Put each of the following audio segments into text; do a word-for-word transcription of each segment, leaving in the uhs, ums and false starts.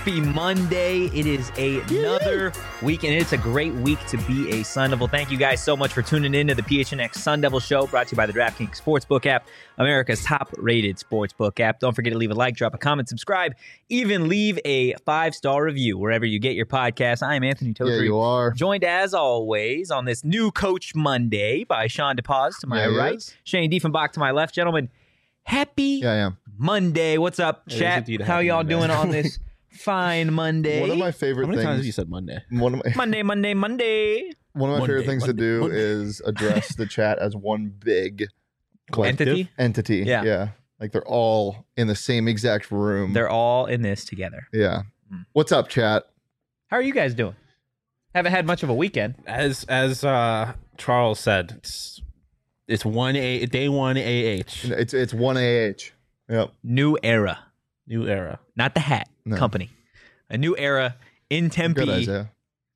Happy Monday. It is a, another week, and it's a great week to be a Sun Devil. Thank you guys so much for tuning in to the P H N X Sun Devil Show, brought to you by the DraftKings Sportsbook app, America's top-rated sportsbook app. Don't forget to leave a like, drop a comment, subscribe, even leave a five-star review wherever you get your podcast. I am Anthony Tozer. Yeah, you are. Joined, as always, on this new Coach Monday by Sean DePaz to my Yeah, right, is. Shane Diefenbach to my left. Gentlemen, happy Yeah, I am. Monday. What's up, It is chat? indeed a How happy y'all Monday. doing on this fine Monday? One of my favorite How many things. times have you said Monday? One of my Monday, Monday, Monday. one of my Monday, favorite things Monday, to do Monday. is address the chat as one big collective Entity? entity. Yeah. yeah. Like they're all in the same exact room. They're all in this together. yeah. Mm. What's up, chat? How are you guys doing? Haven't had much of a weekend. As as uh, Charles said, it's it's one a day one A H It's it's one A H. Yep. New era. new era. Not the hat No. company. A new era in Tempe. Good, Isaiah.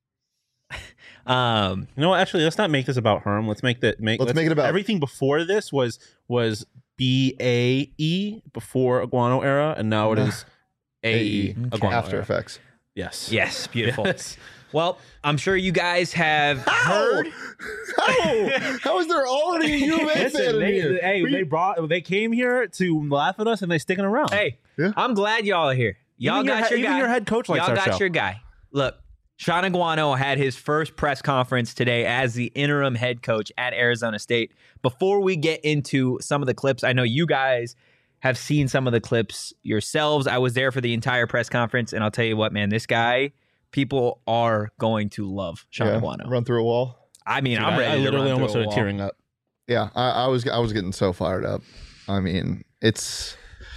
Um, You know what? Actually, let's not make this about Herm. Let's make that make. Let's make it about- everything before this was was B A E before Iguano era, and now it is A E Okay. Iguano After era. Effects. Yes. yes, beautiful. Yes. Well, I'm sure you guys have heard. How? How is there already a U of A fan Listen, in they, here? hey, they brought they came here to laugh at us, and they sticking around. Hey, Yeah. I'm glad y'all are here. Y'all Even your got head- your even guy. your head coach likes y'all our got show. your guy. Look, Sean Iguano had his first press conference today as the interim head coach at Arizona State. Before we get into some of the clips, I know you guys have seen some of the clips yourselves. I was there for the entire press conference, and I'll tell you what, man, this guy, people are going to love Sean Yeah. Iguano. Run through a wall. I mean, Dude, I'm I- ready I to literally run almost through a started wall. tearing up. Yeah, I, I was I was getting so fired up. I mean, it's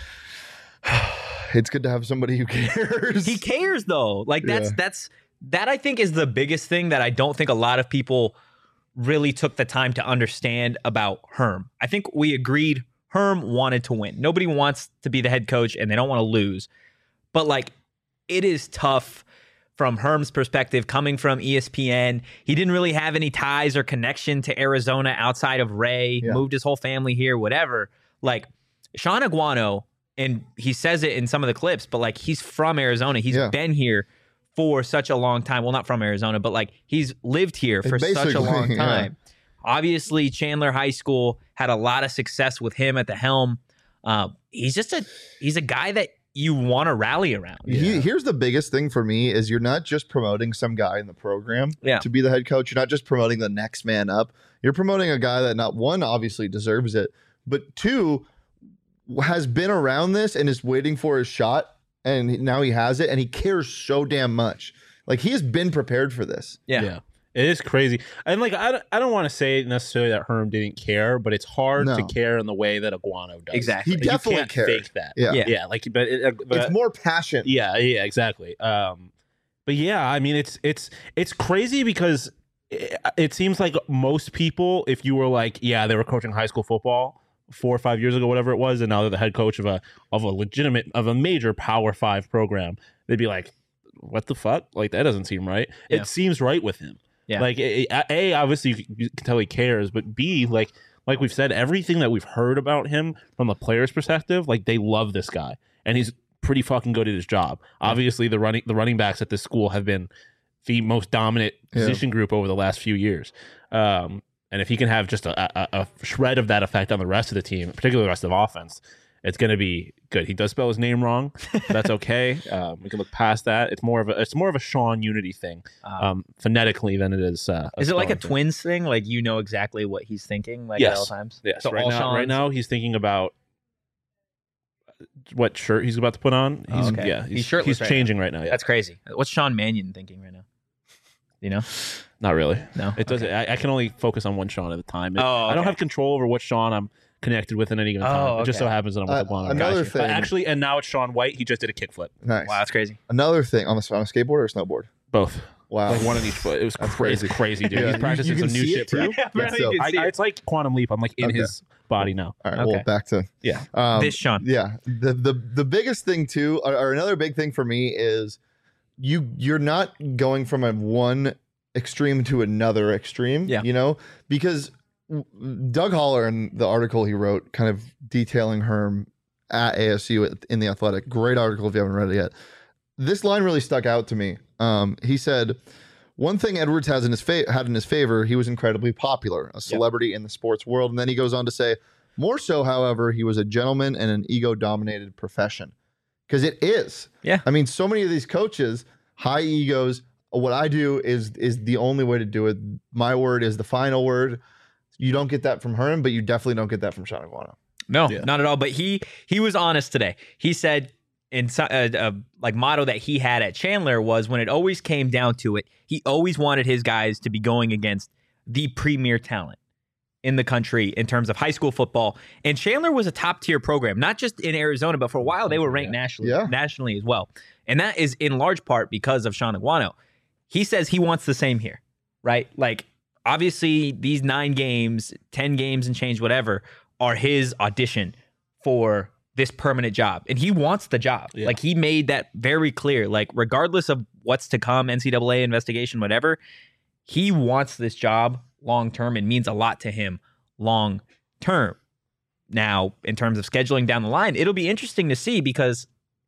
it's good to have somebody who cares. He cares though. Like that's Yeah. that's that I think is the biggest thing that I don't think a lot of people really took the time to understand about Herm. I think we agreed Herm wanted to win. Nobody wants to be the head coach and they don't want to lose. But like it is tough from Herm's perspective coming from E S P N. He didn't really have any ties or connection to Arizona outside of Ray, Yeah. moved his whole family here, whatever. Like Sean Iguano, and he says it in some of the clips, but like he's from Arizona. He's Yeah. been here for such a long time. Well, not from Arizona, but like he's lived here for such a Basically, long yeah. time. Obviously, Chandler High School had a lot of success with him at the helm. Um, he's just a he's a guy that you want to rally around. He, here's the biggest thing for me is you're not just promoting some guy in the program Yeah. to be the head coach. You're not just promoting the next man up. You're promoting a guy that not one obviously deserves it, but two has been around this and is waiting for his shot, and now he has it, and he cares so damn much. Like he has been prepared for this. Yeah. It is crazy. And like I don't, I don't want to say necessarily that Herm didn't care, but it's hard No. to care in the way that Iguano does. Exactly. He Like, you definitely can't cared. fake that. Yeah. Yeah. Yeah, like but, it, uh, but It's more passion. yeah, yeah, exactly. Um but yeah, I mean it's it's it's crazy because it, it seems like most people, if you were like, yeah, they were coaching high school football four or five years ago, whatever it was, and now they're the head coach of a of a legitimate of a major Power Five program, they'd be like, what the fuck? Like that doesn't seem right. Yeah. It seems right with him. Yeah. Like a, a obviously you can you can tell he cares, but B like like we've said, everything that we've heard about him from the player's perspective, like they love this guy, and he's pretty fucking good at his job. Obviously, the running the running backs at this school have been the most dominant Yeah. position group over the last few years. Um, and if he can have just a, a, a shred of that effect on the rest of the team, particularly the rest of the offense, it's going to be good. He does spell his name wrong. But that's okay. Um, we can look past that. It's more of a it's more of a Sean Unity thing, Um, um, phonetically than it is. Uh, is it like a spelling thing. twins thing? Like you know exactly what he's thinking, like at Yes. all times. Yes. So right all now, right Sean's- now he's thinking about what shirt he's about to put on. Oh, He's okay. yeah. He's He's, shirtless he's right changing right now. Yeah. That's crazy. What's Sean Mannion thinking right now? You know? Not really. No. It doesn't. I, I can only focus on one Sean at a time. It- Oh, I don't okay. have control over what Sean I'm connected with in any given time. Oh, It just okay. so happens that I'm with Uh, LeBron. another Gotcha. thing- But actually, and now it's Sean White. He just did a kickflip. Nice. Wow, that's crazy. Another thing on the on a skateboard or a snowboard. Both. Wow. Like one on each foot. It was That's crazy. crazy. crazy, dude. Yeah. He's You- practicing you can some new see shit, it bro. too? Yeah, Yeah, so- you can I, see I, it. it's like Quantum Leap. I'm like in Okay. his body now. All right. Okay. Well, back to Yeah. um, This Sean. Yeah. The the the biggest thing too, or, or another big thing for me is you you're not going from a one extreme to another extreme. Yeah. You know, because Doug Holler in the article he wrote, kind of detailing Herm at A S U in the Athletic, great article if you haven't read it yet. this line really stuck out to me. Um, he said, one thing Edwards has in his fa- had in his favor, he was incredibly popular, a celebrity yep. in the sports world. And then he goes on to say, more so, however, he was a gentleman in an ego-dominated profession. Because it is. Yeah. I mean, so many of these coaches, high egos. What I do is is the only way to do it. My word is the final word. You don't get that from Herm, but you definitely don't get that from Sean Aguano. No, yeah. not at all. But he he was honest today. He said in a, a like motto that he had at Chandler was when it always came down to it, he always wanted his guys to be going against the premier talent in the country in terms of high school football. And Chandler was a top tier program, not just in Arizona, but for a while they were ranked yeah. nationally, yeah. nationally as well. And that is in large part because of Sean Aguano. He says he wants the same here, right? Like, obviously, these nine games, ten games and change, whatever, are his audition for this permanent job. And he wants the job. Yeah. Like, he made that very clear. Like, regardless of what's to come, N C double A investigation, whatever, he wants this job long term and means a lot to him long term. Now, in terms of scheduling down the line, it'll be interesting to see because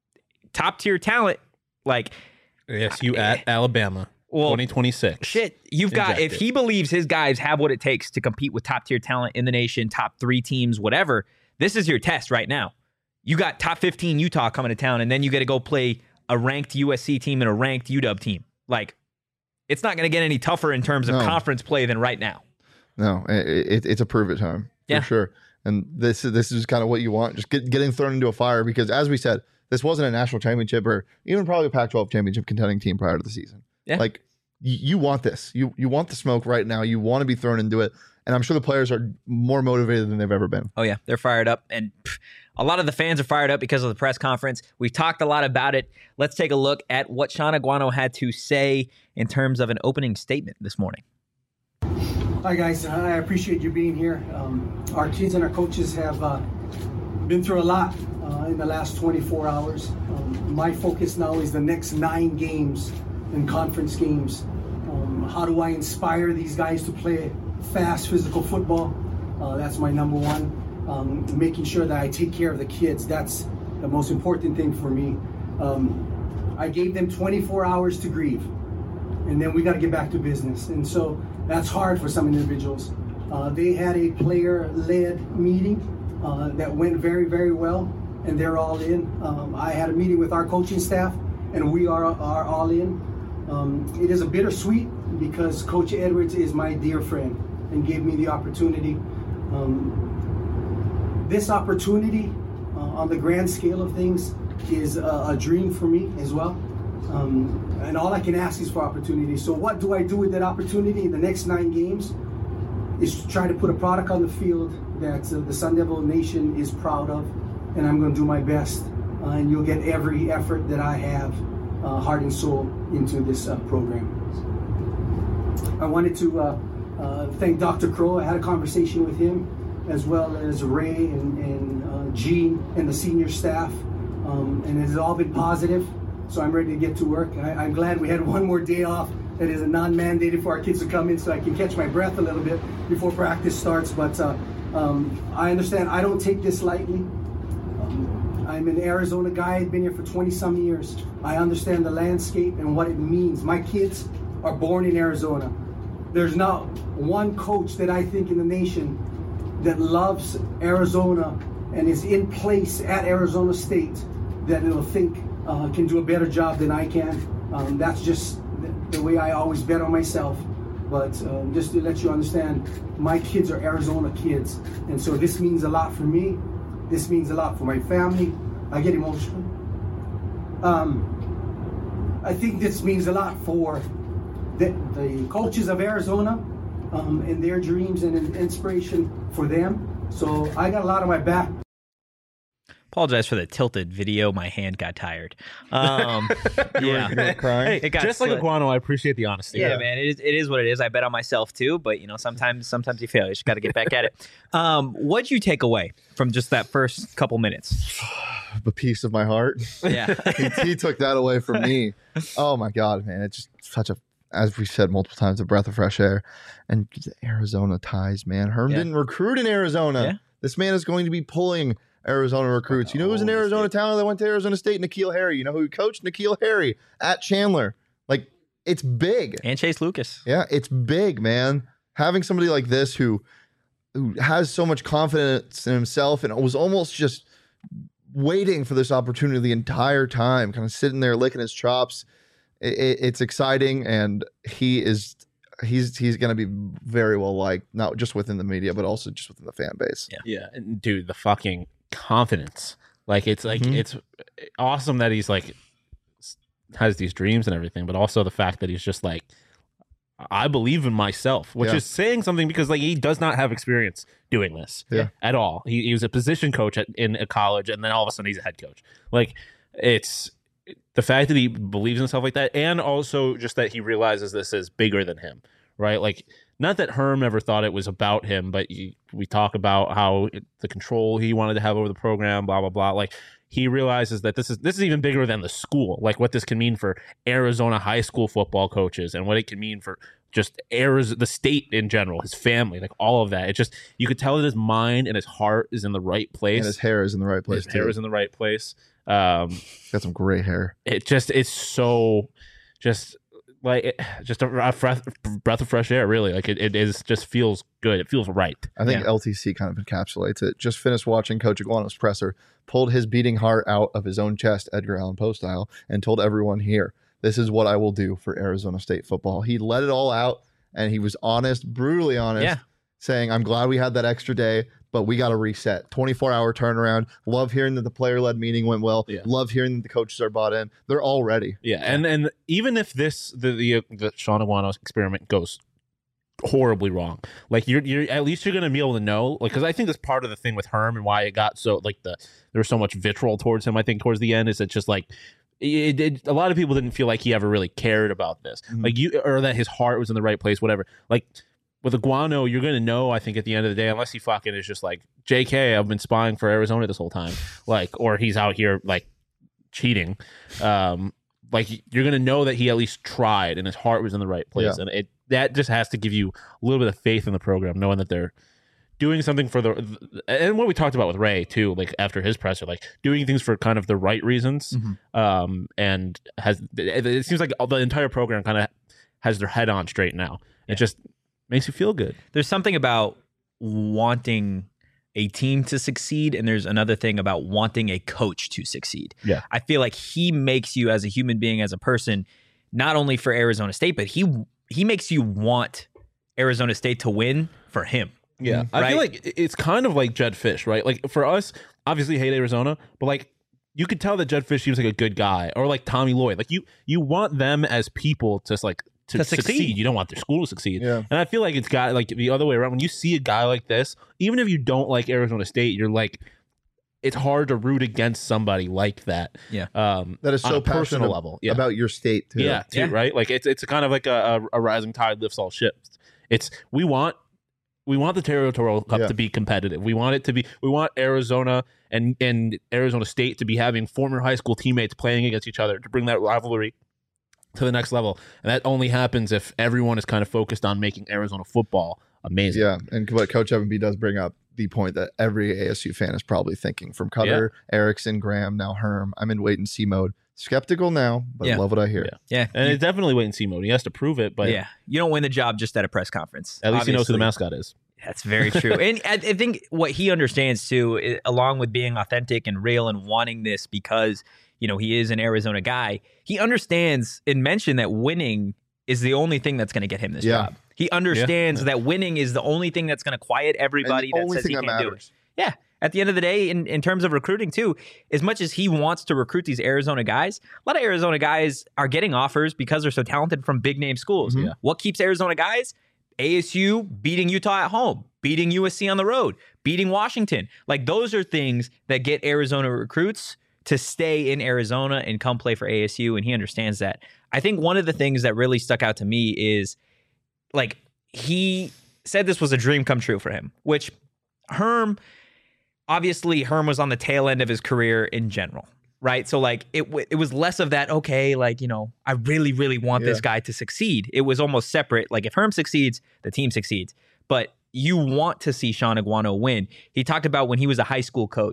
top tier talent, like yes, you at Alabama, well, twenty twenty-six. Shit, you've got if he believes his guys have what it takes to compete with top tier talent in the nation, top three teams, whatever. This is your test right now. You got top fifteen Utah coming to town, and then you got to go play a ranked U S C team and a ranked U W team. Like, it's not going to get any tougher in terms of no. conference play than right now. No, it, it, it's a prove it time for yeah. sure. And this is this is kind of what you want, just get, getting thrown into a fire because, as we said, this wasn't a national championship or even probably a Pac twelve championship contending team prior to the season. Yeah. Like, y- you want this. You you want the smoke right now. You want to be thrown into it. And I'm sure the players are more motivated than they've ever been. Oh, yeah. They're fired up. And pff, a lot of the fans are fired up because of the press conference. We've talked a lot about it. Let's take a look at what Sean Aguano had to say in terms of an opening statement this morning. Hi, guys. I appreciate you being here. Um, our kids and our coaches have uh, been through a lot uh, in the last twenty-four hours. Um, my focus now is the next nine games and conference games. Um, how do I inspire these guys to play fast, physical football? Uh, that's my number one. Um, making sure that I take care of the kids. That's the most important thing for me. Um, I gave them twenty-four hours to grieve, and then we got to get back to business. And so that's hard for some individuals. Uh, they had a player-led meeting uh, that went very, very well, and they're all in. Um, I had a meeting with our coaching staff, and we are, are all in. Um, it is a bittersweet because Coach Edwards is my dear friend and gave me the opportunity. Um, this opportunity uh, on the grand scale of things is a, a dream for me as well. Um, and all I can ask is for opportunity. So what do I do with that opportunity in the next nine games is to try to put a product on the field that uh, the Sun Devil Nation is proud of, and I'm going to do my best. Uh, and you'll get every effort that I have, uh, heart and soul, into this uh, program. I wanted to uh, uh, thank Doctor Crow. I had a conversation with him, as well as Ray and, and uh, Gene and the senior staff, um, and it has all been positive. So I'm ready to get to work. I, I'm glad we had one more day off that is a non-mandated for our kids to come in so I can catch my breath a little bit before practice starts. But uh, um, I understand I don't take this lightly. Um, I'm an Arizona guy. I've been here for twenty some years. I understand the landscape and what it means. My kids are born in Arizona. There's not one coach that I think in the nation that loves Arizona and is in place at Arizona State that will think Uh, can do a better job than I can. Um, that's just the, the way I always bet on myself. But um, just to let you understand, my kids are Arizona kids. And so this means a lot for me. This means a lot for my family. I get emotional. Um, I think this means a lot for the, the coaches of Arizona um, and their dreams and inspiration for them. So I got a lot on my back. Apologize for the tilted video. My hand got tired. Um, yeah, you were crying. Hey, just like Aguano, I appreciate the honesty. Yeah, yeah, man, it is, it is what it is. I bet on myself too, but you know, sometimes sometimes you fail. You just got to get back at it. Um, what'd you take away from just that first couple minutes? A piece of my heart. Yeah, he, he took that away from me. Oh my God, man! It's just such a, as we said multiple times, a breath of fresh air. And Arizona ties, man. Herm yeah. didn't recruit in Arizona. Yeah. This man is going to be pulling Arizona recruits. You know who's an Holy Arizona shit. talent that went to Arizona State? Nikhil Harry. You know who he coached? Nikhil Harry at Chandler. Like, it's big. And Chase Lucas. Yeah, it's big, man. Having somebody like this who who has so much confidence in himself and was almost just waiting for this opportunity the entire time, kind of sitting there licking his chops. It, it, it's exciting, and he is he's he's going to be very well liked, not just within the media, but also just within the fan base. Yeah. Yeah, and dude, the fucking confidence. Like it's like Mhm. it's awesome that he's like s- has these dreams and everything, but also the fact that he's just like, I believe in myself, which Yeah. is saying something because like he does not have experience doing this Yeah. at all. He, he was a position coach at, in a college, and then all of a sudden he's a head coach. Like it's the fact that he believes in himself like that, and also just that he realizes this is bigger than him, right? Like, not that Herm ever thought it was about him, but he, we talk about how it, the control he wanted to have over the program, blah blah blah. Like, he realizes that this is this is even bigger than the school. Like, what this can mean for Arizona high school football coaches, and what it can mean for just Arizona, the state in general, his family, like all of that. It just, you could tell that his mind and his heart is in the right place. And his hair is in the right place His too. hair is in the right place. Um, Got some great hair. it just it's so just like it, just a, a breath, breath of fresh air, really. Like it, it is just feels good. It feels right. I think Yeah. L T C kind of encapsulates it. Just finished watching Coach Iguano's presser, pulled his beating heart out of his own chest, Edgar Allan Poe style, and told everyone here, this is what I will do for Arizona State football. He let it all out, and he was honest, brutally honest, Yeah. saying, I'm glad we had that extra day, but we got to reset. twenty-four hour turnaround. Love hearing that the player-led meeting went well. Yeah. Love hearing that the coaches are bought in. They're all ready. Yeah, and and even if this the the, the Sean Aguano experiment goes horribly wrong, like you're you're at least you're gonna be able to know, like, because I think that's part of the thing with Herm and why it got so like the there was so much vitriol towards him. I think towards the end is it just like. It, it, a lot of people didn't feel like he ever really cared about this, Mhm. like you, or that his heart was in the right place, whatever. Like with Iguano, you're gonna know. I think at the end of the day, unless he fucking is just like J K, I've been spying for Arizona this whole time, like, or he's out here like cheating. Um, like you're gonna know that he at least tried and his heart was in the right place, Yeah. and it that just has to give you a little bit of faith in the program, knowing that they're doing something for the and what we talked about with Ray too, like after his presser, like doing things for kind of the right reasons. Mhm. Um, and has it, it seems like the entire program kind of has their head on straight now. It just makes you feel good. There's something about wanting a team to succeed, and there's another thing about wanting a coach to succeed. Yeah. I feel like he makes you as a human being, as a person, not only for Arizona State, but he he makes you want Arizona State to win for him. Yeah, I Right? feel like it's kind of like Jed Fish, right? Like for us, obviously hate Arizona, but like you could tell that Jed Fish seems like a good guy, or like Tommy Lloyd. Like you, you want them as people to like to, To succeed. succeed. You don't want their school to succeed. Yeah. And I feel like it's got like the other way around. When you see a guy like this, even if you don't like Arizona State, you're like, it's hard to root against somebody like that. Yeah. Um, That is on so a personal passionate level. Yeah. about your state, too. Yeah, too, Yeah. right. Like it's it's kind of like a, a, a rising tide lifts all ships. It's we want we want the Territorial Cup Yeah. to be competitive. We want it to be. We want Arizona and and Arizona State to be having former high school teammates playing against each other to bring that rivalry to the next level. And that only happens if everyone is kind of focused on making Arizona football amazing. Yeah, and what Coach Evan B does bring up the point that every A S U fan is probably thinking, from Cutter, Erickson, Graham, now Herm. I'm in wait and see mode. Skeptical now, but Yeah. love what I hear. Yeah. Yeah. And You- it's definitely wait and see mode. He has to prove it, but yeah. You don't win the job just at a press conference. at least he knows who the Obviously. mascot is. That's very true. And I, I think what he understands too, i- along with being authentic and real and wanting this because, you know, he is an Arizona guy, he understands and mentioned that winning is the only thing that's going to get him this Yeah. job. He understands that winning is the only thing that's going to quiet And everybody the that only says he thing that can't do it. matters. Yeah. At the end of the day, in, in terms of recruiting too, as much as he wants to recruit these Arizona guys, a lot of Arizona guys are getting offers because they're so talented from big name schools. Mhm. Yeah. What keeps Arizona guys? A S U beating Utah at home, beating U S C on the road, beating Washington. Like those are things that get Arizona recruits to stay in Arizona and come play for A S U. And he understands that. I think one of the things that really stuck out to me is like he said this was a dream come true for him, which Herm, obviously Herm was on the tail end of his career in general, right? So like it w- it was less of that, okay, like, you know, I really, really want this Yeah. guy to succeed. It was almost separate. Like if Herm succeeds, the team succeeds. But you want to see Sean Iguano win. He talked about when he was a high school coach,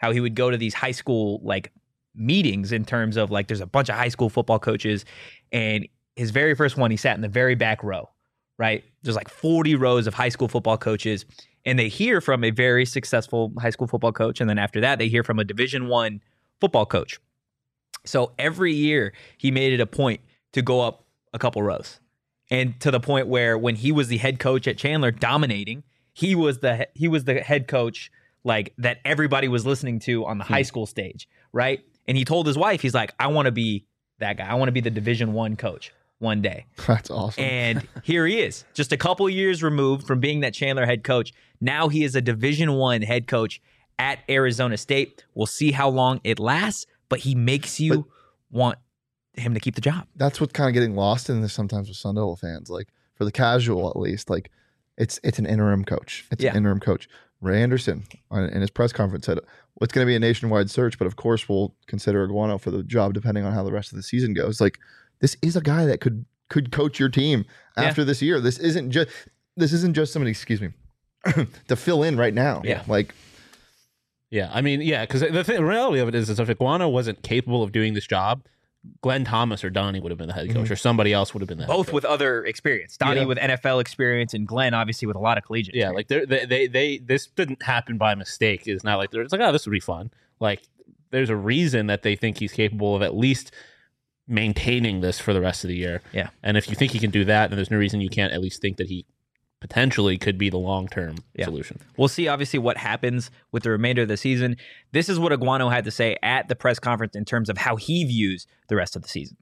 how he would go to these high school like meetings in terms of like there's a bunch of high school football coaches, and his very first one, he sat in the very back row, right? There's like forty rows of high school football coaches, and they hear from a very successful high school football coach, and then after that, they hear from a Division One football coach. So every year, he made it a point to go up a couple rows, and to the point where when he was the head coach at Chandler, dominating, he was the he was the head coach like that everybody was listening to on the hmm. high school stage, right? And he told his wife, he's like, I want to be that guy. I want to be the Division One coach one day. That's awesome. And here he is, just a couple years removed from being that Chandler head coach. Now he is a Division One head coach at Arizona State. We'll see how long it lasts, but he makes you but want him to keep the job. That's what's kind of getting lost in this sometimes with Sun Devil fans. Like for the casual, at least, like it's it's an interim coach. It's yeah. an interim coach. Ray Anderson in his press conference said it's going to be a nationwide search, but of course we'll consider Aguano for the job depending on how the rest of the season goes. Like this is a guy that could could coach your team after yeah. this year. This isn't just this isn't just somebody, excuse me, to fill in right now. Yeah, like yeah, I mean, yeah, because the, the reality of it is, is if Aguano wasn't capable of doing this job, Glenn Thomas or Donnie would have been the head coach, mm-hmm. or somebody else would have been the head both coach. With other experience. Donnie yeah. with N F L experience, and Glenn obviously with a lot of collegiate. Yeah, experience. like they they they this didn't happen by mistake. It's not like they're it's like, oh, this would be fun. Like there's a reason that they think he's capable of at least maintaining this for the rest of the year. Yeah, and if you think he can do that, then there's no reason you can't at least think that he potentially could be the long-term yeah. solution. We'll see, obviously, what happens with the remainder of the season. This is what Aguano had to say at the press conference in terms of how he views the rest of the season.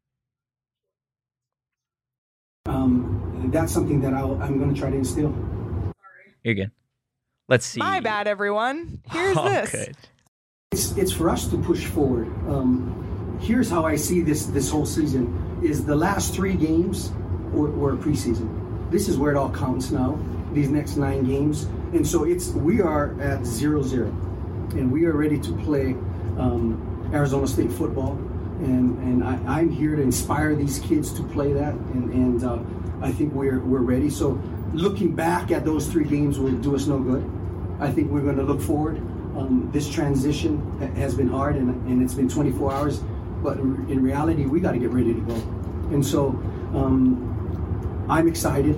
Um, that's something that I'll, I'm going to try to instill. You're good. Let's see. My bad, everyone. Here's oh, this. Good. It's, it's for us to push forward. Um, here's how I see this this whole season is the last three games were, were preseason. This is where it all counts now, these next nine games. And so it's we are at zero zero, and we are ready to play um, Arizona State football. And and I, I'm here to inspire these kids to play that, and, and uh, I think we're we're ready. So looking back at those three games will do us no good. I think we're going to look forward. Um, this transition ha- has been hard, and, and it's been twenty-four hours, but in reality, we got to get ready to go. And so um, I'm excited.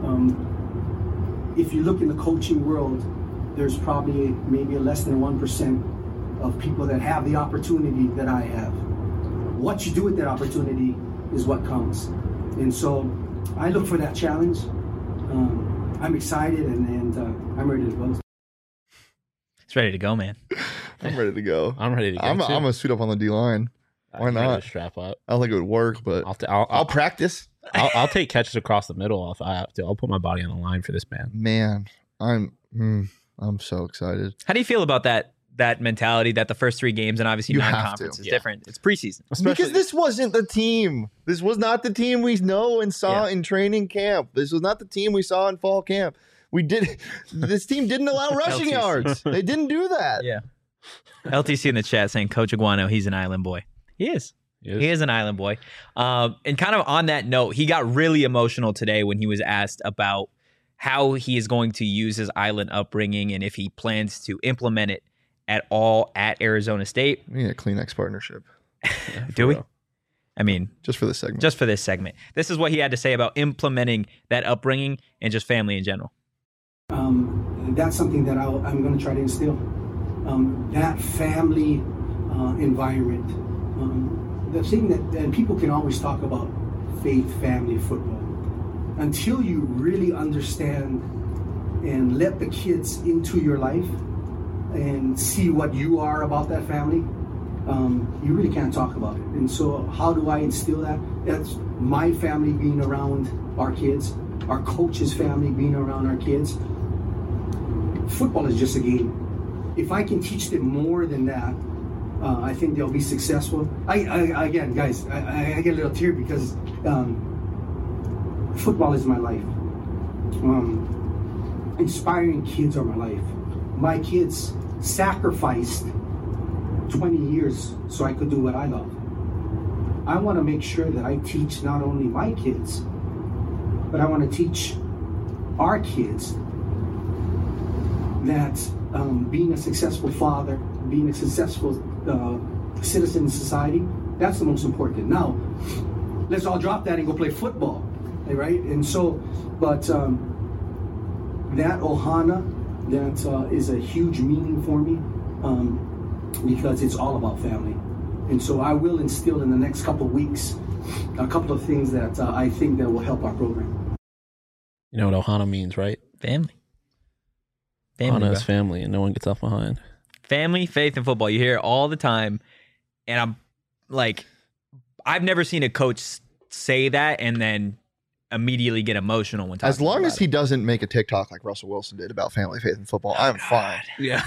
Um, if you look in the coaching world, there's probably maybe a less than one percent of people that have the opportunity that I have. What you do with that opportunity is what counts. And so I look for that challenge. Um, I'm excited, and, and uh, I'm ready to go. It's ready to go, man. I'm ready to go. I'm ready to go. I'm, too. I'm gonna suit up on the D line. Why I'm not? ready to strap up. I don't think it would work, but I'll, t- I'll, I'll I'll practice. I'll, I'll take catches across the middle if I have to. I'll put my body on the line for this man. Man, I'm mm, I'm so excited. How do you feel about that that mentality that the first three games and obviously You non-conference have is Yeah. different? It's preseason. Especially, Because this wasn't the team. This was not the team we know and saw Yeah. in training camp. This was not the team we saw in fall camp. We did. This team didn't allow rushing L T C. yards. They didn't do that. Yeah. L T C in the chat saying Coach Aguano, he's an island boy. He is. Yes. He is an island boy. Um, and kind of on that note, he got really emotional today when he was asked about how he is going to use his island upbringing and if he plans to implement it at all at Arizona State. We need a Kleenex partnership Do we? real. I mean, just for this segment. just for this segment. This is what he had to say about implementing that upbringing and just family in general. Um, that's something that I'll, I'm going to try to instill. Um, that family uh, environment. Um, the thing that and people can always talk about faith, family, football. Until you really understand and let the kids into your life and see what you are about that family, um, you really can't talk about it. And so how do I instill that? That's my family being around our kids, our coach's family being around our kids. Football is just a game. If I can teach them more than that, uh, I think they'll be successful. I, I again, guys, I, I get a little tear because um, football is my life. Um, inspiring kids are my life. My kids sacrificed twenty years so I could do what I love. I want to make sure that I teach not only my kids, but I want to teach our kids that um, being a successful father, being a successful uh, citizen in society. That's the most important. Now, let's all drop that and go play football, right? And so, but um, that Ohana, that uh, is a huge meaning for me um, because it's all about family. And so I will instill in the next couple of weeks a couple of things that uh, I think that will help our program. You know what Ohana means, right? Family. Family, Ohana is bro. family, and no one gets left behind. Family, faith, and football. You hear it all the time. And I'm like, I've never seen a coach say that and then immediately get emotional when talking As long about as he it. doesn't make a TikTok like Russell Wilson did about family, faith, and football, I'm fine. Yeah.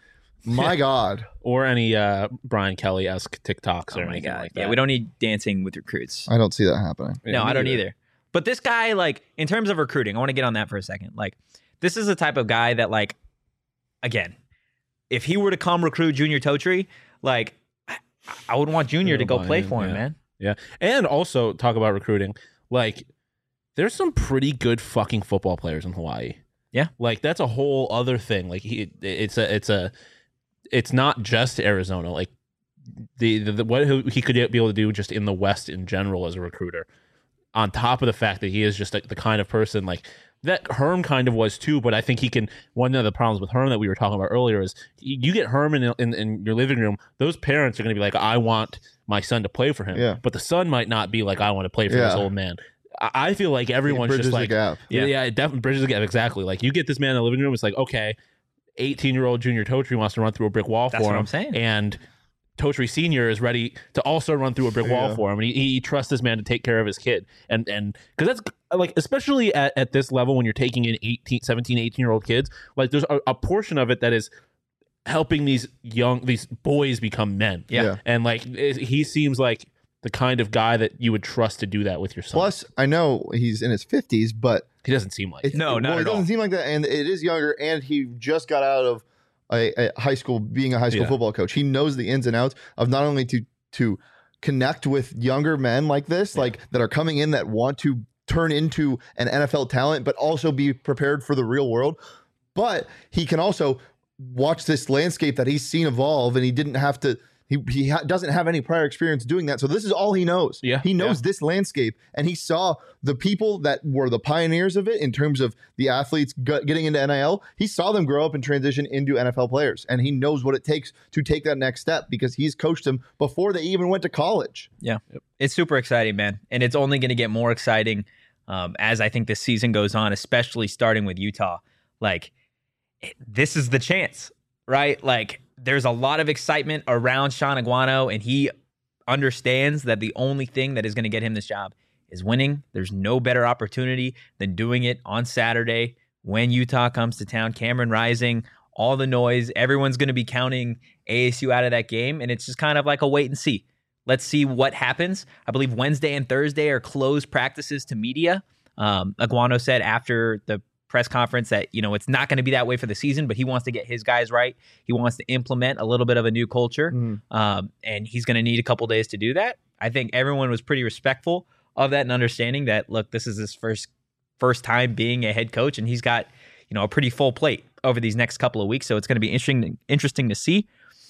My God. Or any uh, Brian Kelly-esque TikToks Oh or my anything God. like that. Yeah, we don't need dancing with recruits. I don't see that happening. Yeah, no, me I don't either. either. But this guy, like, in terms of recruiting, I want to get on that for a second. Like, this is the type of guy that, like, again, if he were to come recruit Junior Totri, like, I, I would want Junior to go buy play in, for him, yeah. man. Yeah. And also talk about recruiting. Like, there's some pretty good fucking football players in Hawaii. Yeah. Like, that's a whole other thing. Like, he, it's a, it's a, it's not just Arizona. Like, the, the, the what he could be able to do just in the West in general as a recruiter, on top of the fact that he is just like the kind of person like that Herm kind of was too. But I think he can. One of the problems with Herm that we were talking about earlier is you get Herm in, in, in your living room. Those parents are going to be like, I want my son to play for him. Yeah. But the son might not be like, I want to play for this Yeah. old man. I, I feel like everyone's Bridges just the like, gap. yeah, Yeah. yeah, it definitely bridges the gap. Exactly. Like you get this man in the living room. It's like, okay, eighteen year old Junior Totri wants to run through a brick wall That's for what him. I'm saying. And Totri Senior is ready to also run through a brick wall Yeah. for him, and he, he trusts this man to take care of his kid. And and because that's like, especially at, at this level when you're taking in eighteen, seventeen, eighteen year old kids, like there's a, a portion of it that is helping these young these boys become men. Yeah. Yeah. And like it, he seems like the kind of guy that you would trust to do that with your son. Plus, I know he's in his fifties, but he doesn't seem like it's, it. No, not well, at it doesn't all. seem like that. And it is younger, and he just got out of a, a high school, being a high school Yeah. football coach. He knows the ins and outs of not only to to connect with younger men like this, like that are coming in that want to turn into an N F L talent, but also be prepared for the real world. But he can also watch this landscape that he's seen evolve, and he didn't have to. He, he ha- doesn't have any prior experience doing that. So this is all he knows. Yeah, He knows yeah. this landscape, and he saw the people that were the pioneers of it in terms of the athletes g- getting into N I L. He saw them grow up and transition into N F L players, and he knows what it takes to take that next step because he's coached them before they even went to college. Yeah. It's super exciting, man. And it's only going to get more exciting um, as I think this season goes on, especially starting with Utah. Like, it- this is the chance, right? Like, there's a lot of excitement around Sean Aguano, and he understands that the only thing that is going to get him this job is winning. There's no better opportunity than doing it on Saturday when Utah comes to town. Cameron Rising, all the noise. Everyone's going to be counting A S U out of that game, and it's just kind of like a wait and see. Let's see what happens. I believe Wednesday and Thursday are closed practices to media. Um, Aguano said after the press conference that, you know, it's not going to be that way for the season, but he wants to get his guys right. He wants to implement a little bit of a new culture, um, and he's going to need a couple days to do that. I think everyone was pretty respectful of that and understanding that, look, this is his first first time being a head coach, and he's got, you know, a pretty full plate over these next couple of weeks. So it's going to be interesting interesting to see.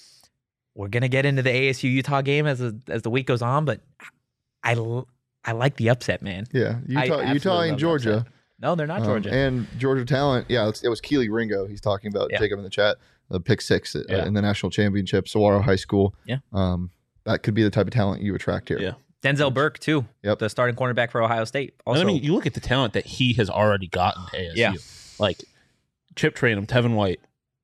We're going to get into the A S U Utah game as a, as the week goes on, but I I like the upset, man. Yeah, Utah, absolutely Utah love and the Georgia. upset. No, they're not Um, Georgia. and Georgia talent. Yeah, it's, it was Keely Ringo. He's talking about Yeah. Jacob in the chat. The pick six uh, Yeah. in the national championship, Saguaro High School. Yeah. Um, that could be the type of talent you attract here. Yeah. Denzel Burke, too, Yep. the starting cornerback for Ohio State. And Also, I mean, you look at the talent that he has already gotten to A S U. Yeah. Like Chip Trainum, Tevin White,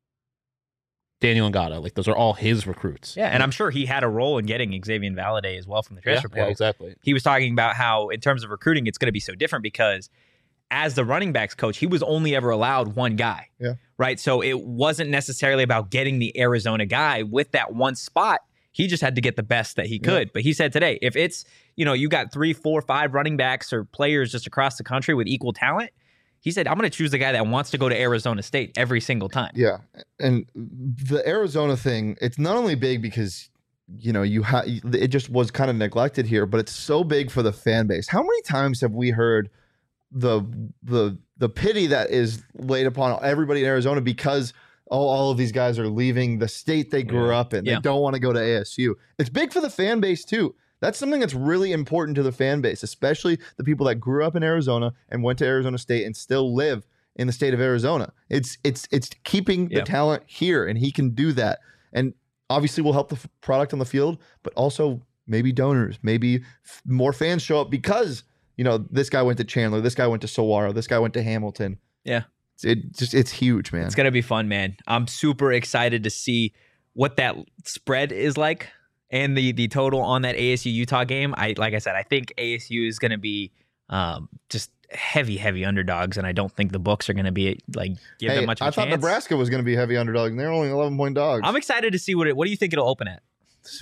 Daniel Ngata. Like those are all his recruits. yeah, and I'm sure he had a role in getting Xavier Valade as well from the Yeah, transfer portal. yeah, exactly. He was talking about how, in terms of recruiting, it's going to be so different because as the running backs coach, he was only ever allowed one guy. Yeah. Right. So it wasn't necessarily about getting the Arizona guy with that one spot. He just had to get the best that he could. But he said today, if it's, you know, you got three, four, five running backs or players just across the country with equal talent, he said, I'm going to choose the guy that wants to go to Arizona State every single time. Yeah, and the Arizona thing, it's not only big because you know you have it just was kind of neglected here, but it's so big for the fan base. How many times have we heard the the the pity that is laid upon everybody in Arizona because all, all of these guys are leaving the state they grew Yeah. up in. Yeah. They don't want to go to A S U. It's big for the fan base too. That's something that's really important to the fan base, especially the people that grew up in Arizona and went to Arizona State and still live in the state of Arizona. It's it's it's keeping the Yeah. talent here, and he can do that. And obviously will help the f- product on the field, but also maybe donors, maybe f- more fans show up because, you know, this guy went to Chandler, this guy went to Saguaro, this guy went to Hamilton. Yeah. It's, it just it's huge, man. It's gonna be fun, man. I'm super excited to see what that spread is like and the the total on that A S U Utah game. I like I said, I think A S U is gonna be um, just heavy, heavy underdogs, and I don't think the books are gonna be like give Hey, them much of a I thought chance. Nebraska was going to be a heavy underdog, and they're only eleven point dogs. I'm excited to see what it. What do you think it'll open at?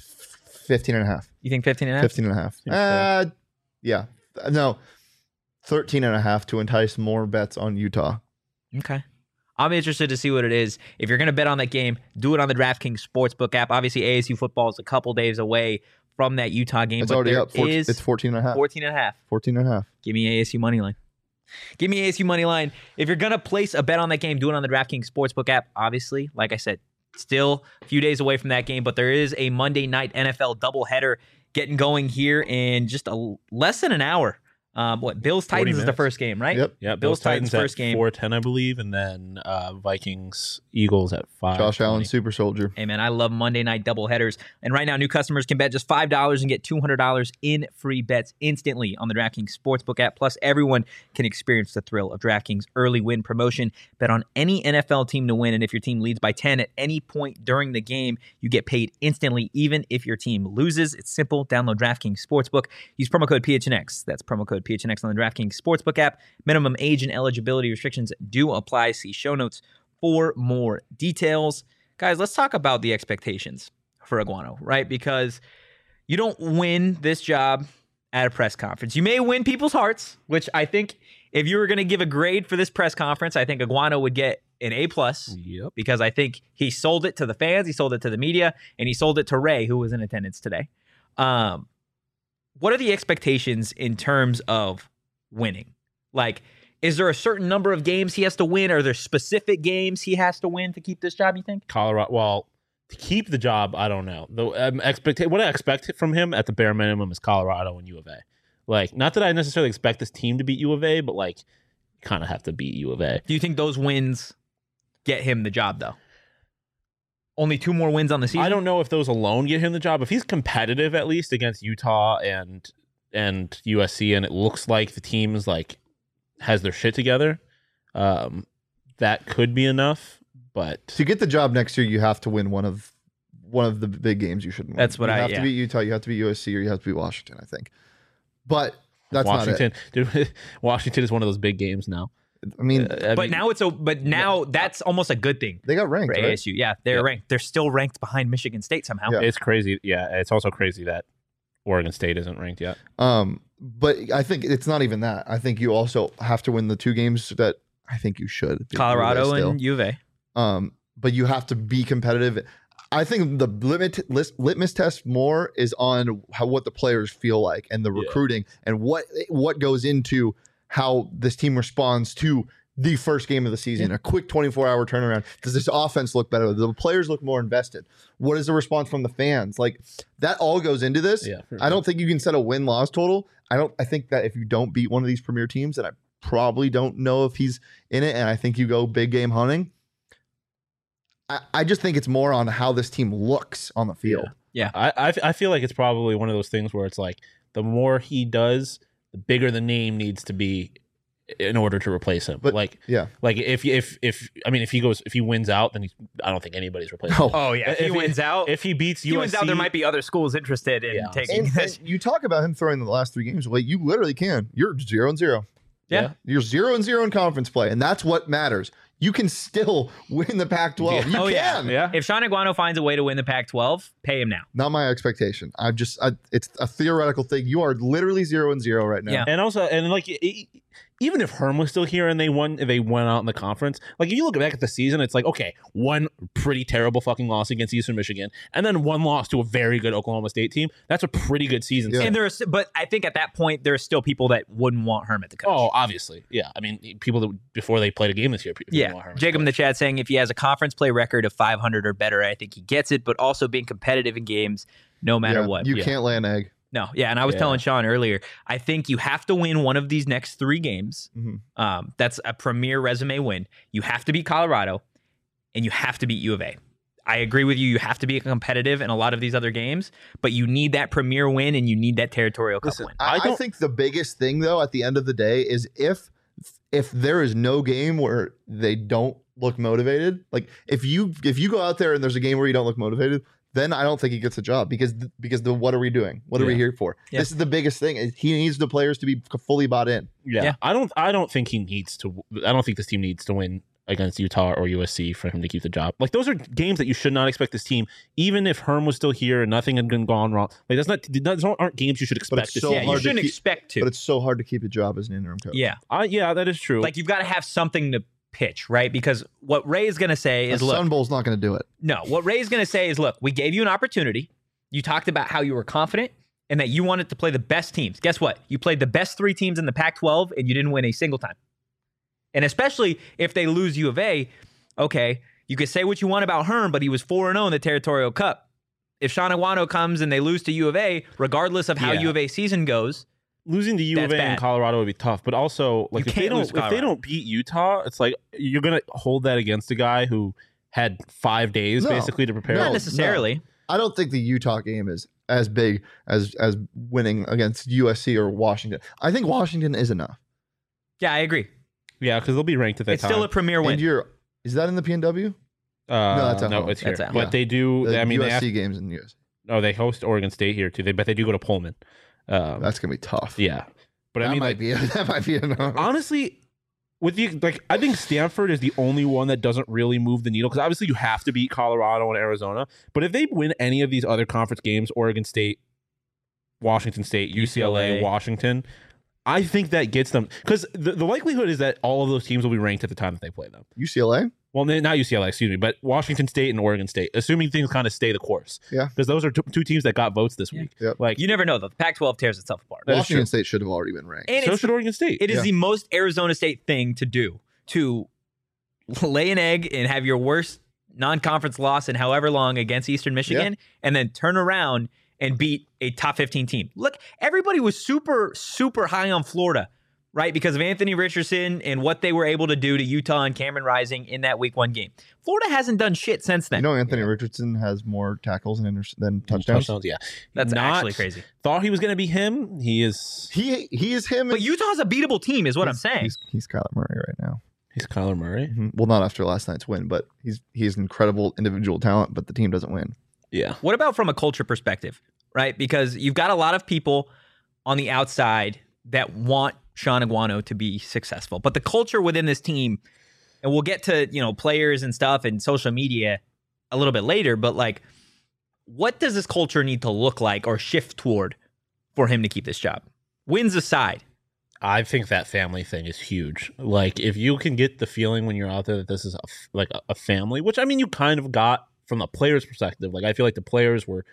fifteen and a half. You think fifteen and a half? fifteen and a half. Uh, yeah. No, thirteen and a half to entice more bets on Utah. Okay. I'm interested to see what it is. If you're going to bet on that game, do it on the DraftKings Sportsbook app. Obviously, A S U football is a couple days away from that Utah game. It's but already there up. fourteen, is it's fourteen and a half. fourteen and a half. fourteen and a half. Give me A S U money line. Give me A S U money line. If you're going to place a bet on that game, do it on the DraftKings Sportsbook app. Obviously, like I said, still a few days away from that game, but there is a Monday night N F L doubleheader getting going here in just a less than an hour. Um, what Bills Titans is the minutes. first game, right? Yep. Yeah, Bills Titans at first game. four ten, I believe, and then uh, Vikings Eagles at five. Josh Allen, super soldier. Hey, man, I love Monday night doubleheaders. And right now, new customers can bet just five dollars and get two hundred dollars in free bets instantly on the DraftKings Sportsbook app. Plus, everyone can experience the thrill of DraftKings early win promotion. Bet on any N F L team to win, and if your team leads by ten at any point during the game, you get paid instantly, even if your team loses. It's simple. Download DraftKings Sportsbook. Use promo code P H N X. That's promo code P H N X on the DraftKings Sportsbook app. Minimum age and eligibility restrictions do apply. See show notes for more details. Guys, let's talk about the expectations for Aguano, right? Because you don't win this job at a press conference. You may win people's hearts, which I think if you were going to give a grade for this press conference, I think Aguano would get an A plus Yep. because I think he sold it to the fans, he sold it to the media, and he sold it to Ray, who was in attendance today. Um, what are the expectations in terms of winning? Like, is there a certain number of games he has to win? Are there specific games he has to win to keep this job, you think? Colorado. Well, to keep the job, I don't know. The um, expect what I expect from him at the bare minimum is Colorado and U of A. Like, not that I necessarily expect this team to beat U of A, but like, you kind of have to beat U of A. Do you think those wins get him the job, though? Only two more wins on the season? I don't know if those alone get him the job. If he's competitive at least against Utah and and U S C, and it looks like the team is like has their shit together, um, that could be enough. But To get the job next year, you have to win one of one of the big games you shouldn't win. That's what you I- have yeah. to beat Utah, you have to beat U S C, or you have to beat Washington, I think. But that's Washington, dude, Washington is one of those big games now. not it. I mean, Uh, I But mean, now it's a but now that's almost a good thing they got ranked, for right? A S U. Yeah, they're Yeah. ranked. They're still ranked behind Michigan State somehow. Yeah. it's crazy. Yeah, it's also crazy that Oregon State isn't ranked yet. Um, but I think it's not even that. I think you also have to win the two games that I think you should. beat Colorado U of A still. and U of A. Um, but you have to be competitive. I think the limit, lis- litmus test more is on how what the players feel like and the Yeah. recruiting and what what goes into how this team responds to the first game of the season. A quick twenty-four hour turnaround. Does this offense look better? Do the players look more invested? What is the response from the fans? Like that all goes into this. Yeah, for I don't think you can set a win loss total. I don't. I think that if you don't beat one of these premier teams, and I probably don't know if he's in it, and I think you go big game hunting. I, I just think it's more on how this team looks on the field. I, I I feel like it's probably one of those things where it's like the more he does, the bigger the name needs to be in order to replace him. But- like Yeah. like if if if I mean if he goes if he wins out, then he's, I don't think anybody's replacing him. Oh yeah, if, If he he- wins out, If he beats if he U S C, wins out, there might be other schools interested in Yeah. taking And, this. and you talk about him throwing the last three games away. You literally can. You're zero and zero. Yeah. You're zero and zero in conference play, and that's what matters. You can still win the Pac twelve. Yeah. You Oh, yeah. can. yeah. If Sean Aguano finds a way to win the Pac twelve, pay him now. Not my expectation. I just, I, it's a theoretical thing. You are literally zero and zero right now. Yeah. And also, and like, it, even if Herm was still here and they won, they went out in the conference, like if you look back at the season, it's like, okay, one pretty terrible fucking loss against Eastern Michigan, and then one loss to a very good Oklahoma State team. That's a pretty good season. Yeah. And there's, but I think at that point there are still people that wouldn't want Herm at the coach. Oh, obviously, yeah. I mean, people that before they played a game this year. people didn't yeah. want Herm as Jacob in coach. the chat saying if he has a conference play record of five hundred or better, I think he gets it. But also being competitive in games, no matter Yeah, what. You Yeah. can't lay an egg. No, yeah, and I was Yeah. telling Sean earlier, I think you have to win one of these next three games. Mhm. Um, that's a premier resume win. You have to beat Colorado, and you have to beat U of A. I agree with you. You have to be competitive in a lot of these other games, but you need that premier win, and you need that territorial cup Listen, win. I, I I don't- think the biggest thing, though, at the end of the day, is if if there is no game where they don't look motivated, like if you if you go out there and there's a game where you don't look motivated, then I don't think he gets a job because because the what are we doing? What are we Yeah. here for? Yeah. This is the biggest thing. is He needs the players to be fully bought in. Yeah. Yeah. I don't. I don't think he needs to. I don't think this team needs to win against Utah or U S C for him to keep the job. Like those are games that you should not expect this team, even if Herm was still here and nothing had been gone wrong. Like that's not. Those aren't games you should But expect. it's This so team. yeah, you hard to shouldn't keep- expect to. But it's so hard to keep a job as an interim coach. yeah, I, yeah, that is true. like you've got to have something to pitch, right? Because what Ray is going to say The is, look, Sun Bowl's not going to do it. no, what Ray's going to say is, look, we gave you an opportunity. You talked about how you were confident and that you wanted to play the best teams. Guess what? You played the best three teams in the Pac twelve and you didn't win a single time. And especially if they lose U of A, okay, you could say what you want about Herm, but he was four and oh in the Territorial Cup. If Sean Aguano comes and they lose to U of A, regardless of how Yeah. U of A season goes, Losing to U of That's A and bad. Colorado would be tough, but also like You if they can't don't lose if they Colorado. don't beat Utah, it's like you're gonna hold that against a guy who had five days No. basically to prepare. No, not necessarily. I don't think the Utah game is as big as as winning against U S C or Washington. I think Washington is enough. Yeah, I agree. Yeah, because they'll be ranked at that It's time. still a premier And win. you're is that in the P N W? uh, No, that's at no, home. it's here. That's at But home. they do. The I mean, they U S C have, games in the U S. oh, they host Oregon State here too. They but they do go to Pullman. Um, That's gonna be tough. yeah, but that I mean, might like, be that might be enough. honestly, with the like, I think Stanford is the only one that doesn't really move the needle because obviously you have to beat Colorado and Arizona. But if they win any of these other conference games, Oregon State, Washington State, U C L A, U C L A. Washington, I think that gets them because the, the likelihood is that all of those teams will be ranked at the time that they play them. U C L A? Well, n- not U C L A, excuse me, but Washington State and Oregon State, assuming things kind of stay the course. Yeah. Because those are t- two teams that got votes this Yeah. week. Yep. Like, You never know, though. The Pac twelve tears itself apart. That is Washington true. State should have already been ranked. And so it's should Oregon State. It is Yeah. the most Arizona State thing to do, to lay an egg and have your worst non-conference loss in however long against Eastern Michigan, and then turn around and beat a top fifteen team. Look, everybody was super, super high on Florida, right? Because of Anthony Richardson and what they were able to do to Utah and Cameron Rising in that week one game. Florida hasn't done shit since then. You know, Anthony Richardson has more tackles and inter- than touchdowns. yeah. That's Not- actually crazy. Thought he was going to be him. He is. He he is him. But and- Utah's a beatable team, is what I'm he's- saying. He's, he's Kyler Murray right now. He's Kyler Murray. Mhm. Well, not after last night's win, but he's he's incredible individual talent, but the team doesn't win. Yeah. What about from a culture perspective, right? Because you've got a lot of people on the outside that want Sean Aguano to be successful, but the culture within this team, and we'll get to, you know, players and stuff and social media a little bit later, but like, what does this culture need to look like or shift toward for him to keep this job? Wins aside. I think that family thing is huge. Like, if you can get the feeling when you're out there that this is a f like a, a family, which I mean, you kind of got from the players' perspective. Like, I feel like the players were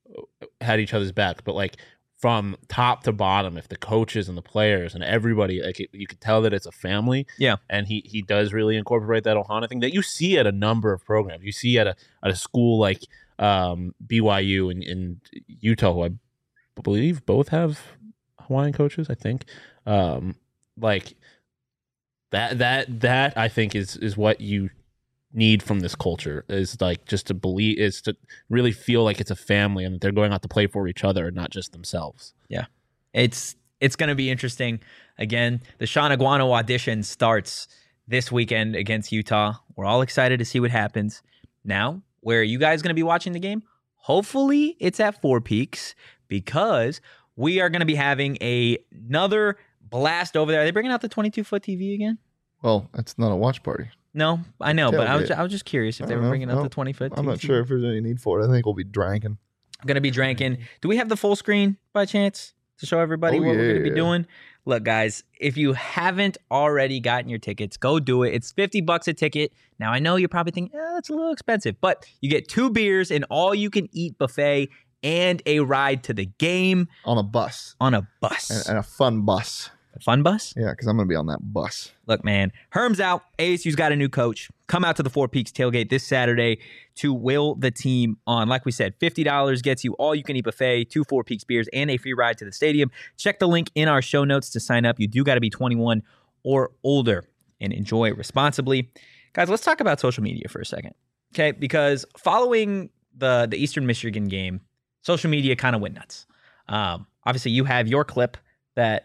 had each other's back, but like from top to bottom, if the coaches and the players and everybody, like, it, you could tell that it's a family. Yeah. And he he does really incorporate that Ohana thing that you see at a number of programs. You see at a at a school like um, B Y U and, and Utah, who I believe both have Hawaiian coaches, I think. Um, like that, that, that I think is, is what you need from this culture is like just to believe is to really feel like it's a family and that they're going out to play for each other and not just themselves. It's it's going to be interesting. Again, the Sean Aguano audition starts this weekend against Utah. We're all excited to see what happens. Now, where are you guys going to be watching the game? Hopefully, it's at Four Peaks because we are going to be having a, another blast over there. Are they bringing out the twenty-two foot T V again? Well, it's not a watch party. No, I know, but I was Tailgate. I was just curious if I they don't were know. bringing out No, the twenty foot. I'm not sure if there's any need for it. I think we'll be drinking. I'm going to be drinking. Do we have the full screen by chance? to show everybody Oh, what we're going to be yeah. doing. Look, guys, if you haven't already gotten your tickets, go do it. It's fifty bucks a ticket. Now, I know you're probably thinking, eh, that's a little expensive, but you get two beers, an all-you-can-eat buffet, and a ride to the game On a bus. on a bus. And, and a fun bus. A fun bus? Yeah, because I'm going to be on that bus. Look, man, Herm's out. A S U's got a new coach. Come out to the Four Peaks tailgate this Saturday to will the team on. Like we said, fifty dollars gets you all you can eat buffet, two Four Peaks beers, and a free ride to the stadium. Check the link in our show notes to sign up. You do got to be twenty-one or older and enjoy responsibly. Guys, let's talk about social media for a second. Okay, because following the, the Eastern Michigan game, social media kind of went nuts. Um, obviously, you have your clip that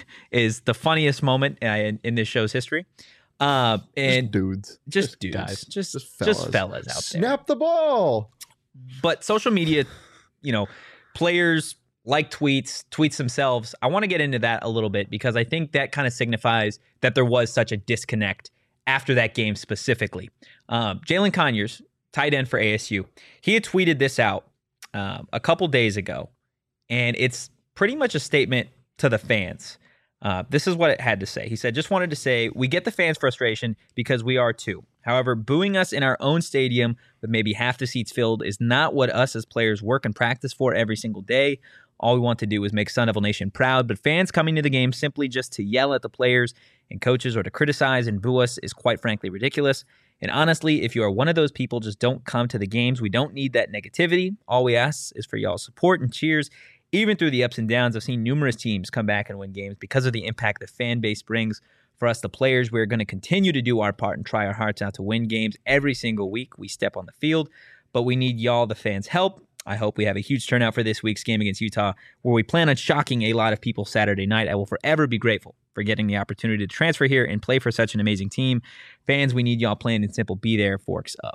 is the funniest moment in, in this show's history. Uh, and Just dudes. just, Just dudes, guys. just Just just fellas. fellas, out there. Snap the ball. But social media, you know, players like tweets, tweets themselves. I want to get into that a little bit because I think that kind of signifies that there was such a disconnect after that game specifically. Um, Jalen Conyers, tight end for A S U, he had tweeted this out um, a couple days ago, and it's pretty much a statement to the fans. Uh, this is what it had to say. He said, just wanted to say, we get the fans' frustration because we are too. However, booing us in our own stadium with maybe half the seats filled is not what us as players work and practice for every single day. All we want to do is make Sun Devil Nation proud, but fans coming to the game simply just to yell at the players and coaches or to criticize and boo us is quite frankly ridiculous. And honestly, if you are one of those people, just don't come to the games. We don't need that negativity. All we ask is for y'all's support and cheers. Even through the ups and downs, I've seen numerous teams come back and win games because of the impact the fan base brings. For us, the players, we're going to continue to do our part and try our hearts out to win games every single week we step on the field. But we need y'all, the fans' help. I hope we have a huge turnout for this week's game against Utah, where we plan on shocking a lot of people Saturday night. I will forever be grateful for getting the opportunity to transfer here and play for such an amazing team. Fans, we need y'all plain and simple. Be there, forks up.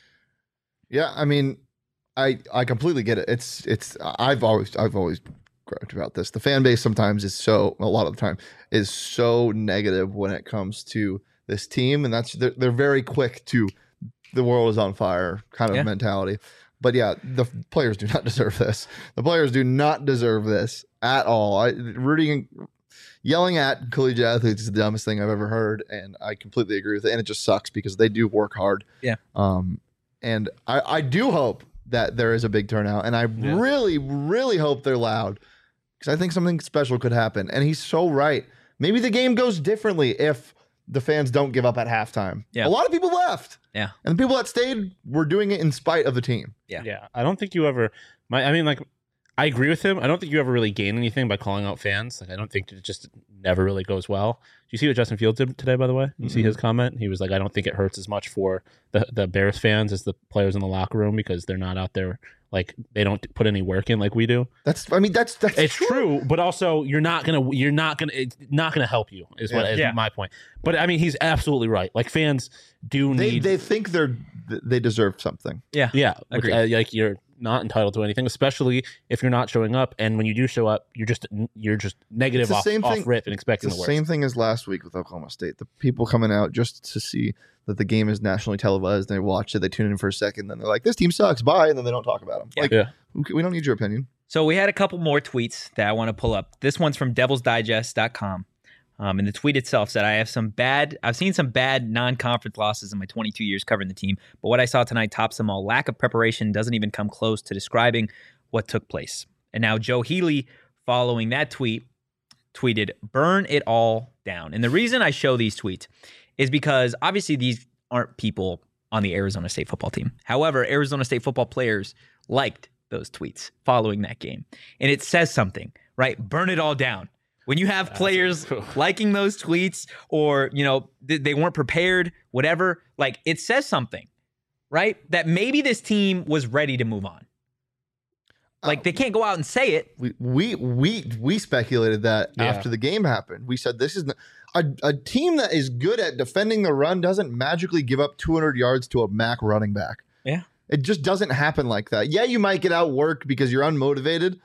Yeah, I mean, I I completely get it. It's it's I've always I've always griped about this. The fan base sometimes is so a lot of the time is so negative when it comes to this team, and that's they're, they're very quick to the world is on fire kind of Yeah. mentality. But yeah, the players do not deserve this. The players do not deserve this at all. I rooting yelling at collegiate athletes is the dumbest thing I've ever heard, and I completely agree with it. And it just sucks because they do work hard. Yeah. Um, and I I do hope that there is a big turnout, and I Yeah. really really hope they're loud because I think something special could happen. And he's so right. Maybe the game goes differently if the fans don't give up at halftime. Yeah. A lot of people left. Yeah. And the people that stayed were doing it in spite of the team. Yeah. Yeah, I don't think you ever. My, I mean, like, I agree with him. I don't think you ever really gain anything by calling out fans. Like, I don't think it just never really goes well. Do you see what Justin Fields did today? By the way, you see his comment. He was like, "I don't think it hurts as much for the the Bears fans as the players in the locker room because they're not out there like they don't put any work in like we do." That's I mean that's that's It's true, but also you're not gonna you're not gonna it's not gonna help you is what Yeah. is Yeah. my point. But I mean, he's absolutely right. Like fans do They need. they think they're they deserve something. Yeah. Yeah, which, Agreed. uh, like you're not entitled to anything, especially if you're not showing up. And when you do show up, you're just you're just negative It's the off, same off thing- rip and expecting It's the the worst. same thing as last week with Oklahoma State. The people coming out just to see that the game is nationally televised. They watch it, they tune in for a second, then they're like, "This team sucks, bye," and then they don't talk about them. Yeah. Like, Yeah. okay, we don't need your opinion. So we had a couple more tweets that I want to pull up. This one's from devils digest dot com. Um, and the tweet itself said, I have some bad, I've seen some bad non-conference losses in my twenty-two years covering the team, but what I saw tonight tops them all. Lack of preparation doesn't even come close to describing what took place. And now Joe Healy, following that tweet, tweeted, burn it all down. And the reason I show these tweets is because obviously these aren't people on the Arizona State football team. However, Arizona State football players liked those tweets following that game. And it says something, right? Burn it all down. When you have players liking those tweets or, you know, th- they weren't prepared, whatever, like it says something, right? That maybe this team was ready to move on. Like they can't go out and say it. We we we we speculated that Yeah. after the game happened. We said this is n- a a team that is good at defending the run doesn't magically give up two hundred yards to a M A C running back. Yeah. It just doesn't happen like that. Yeah, you might get outworked because you're unmotivated,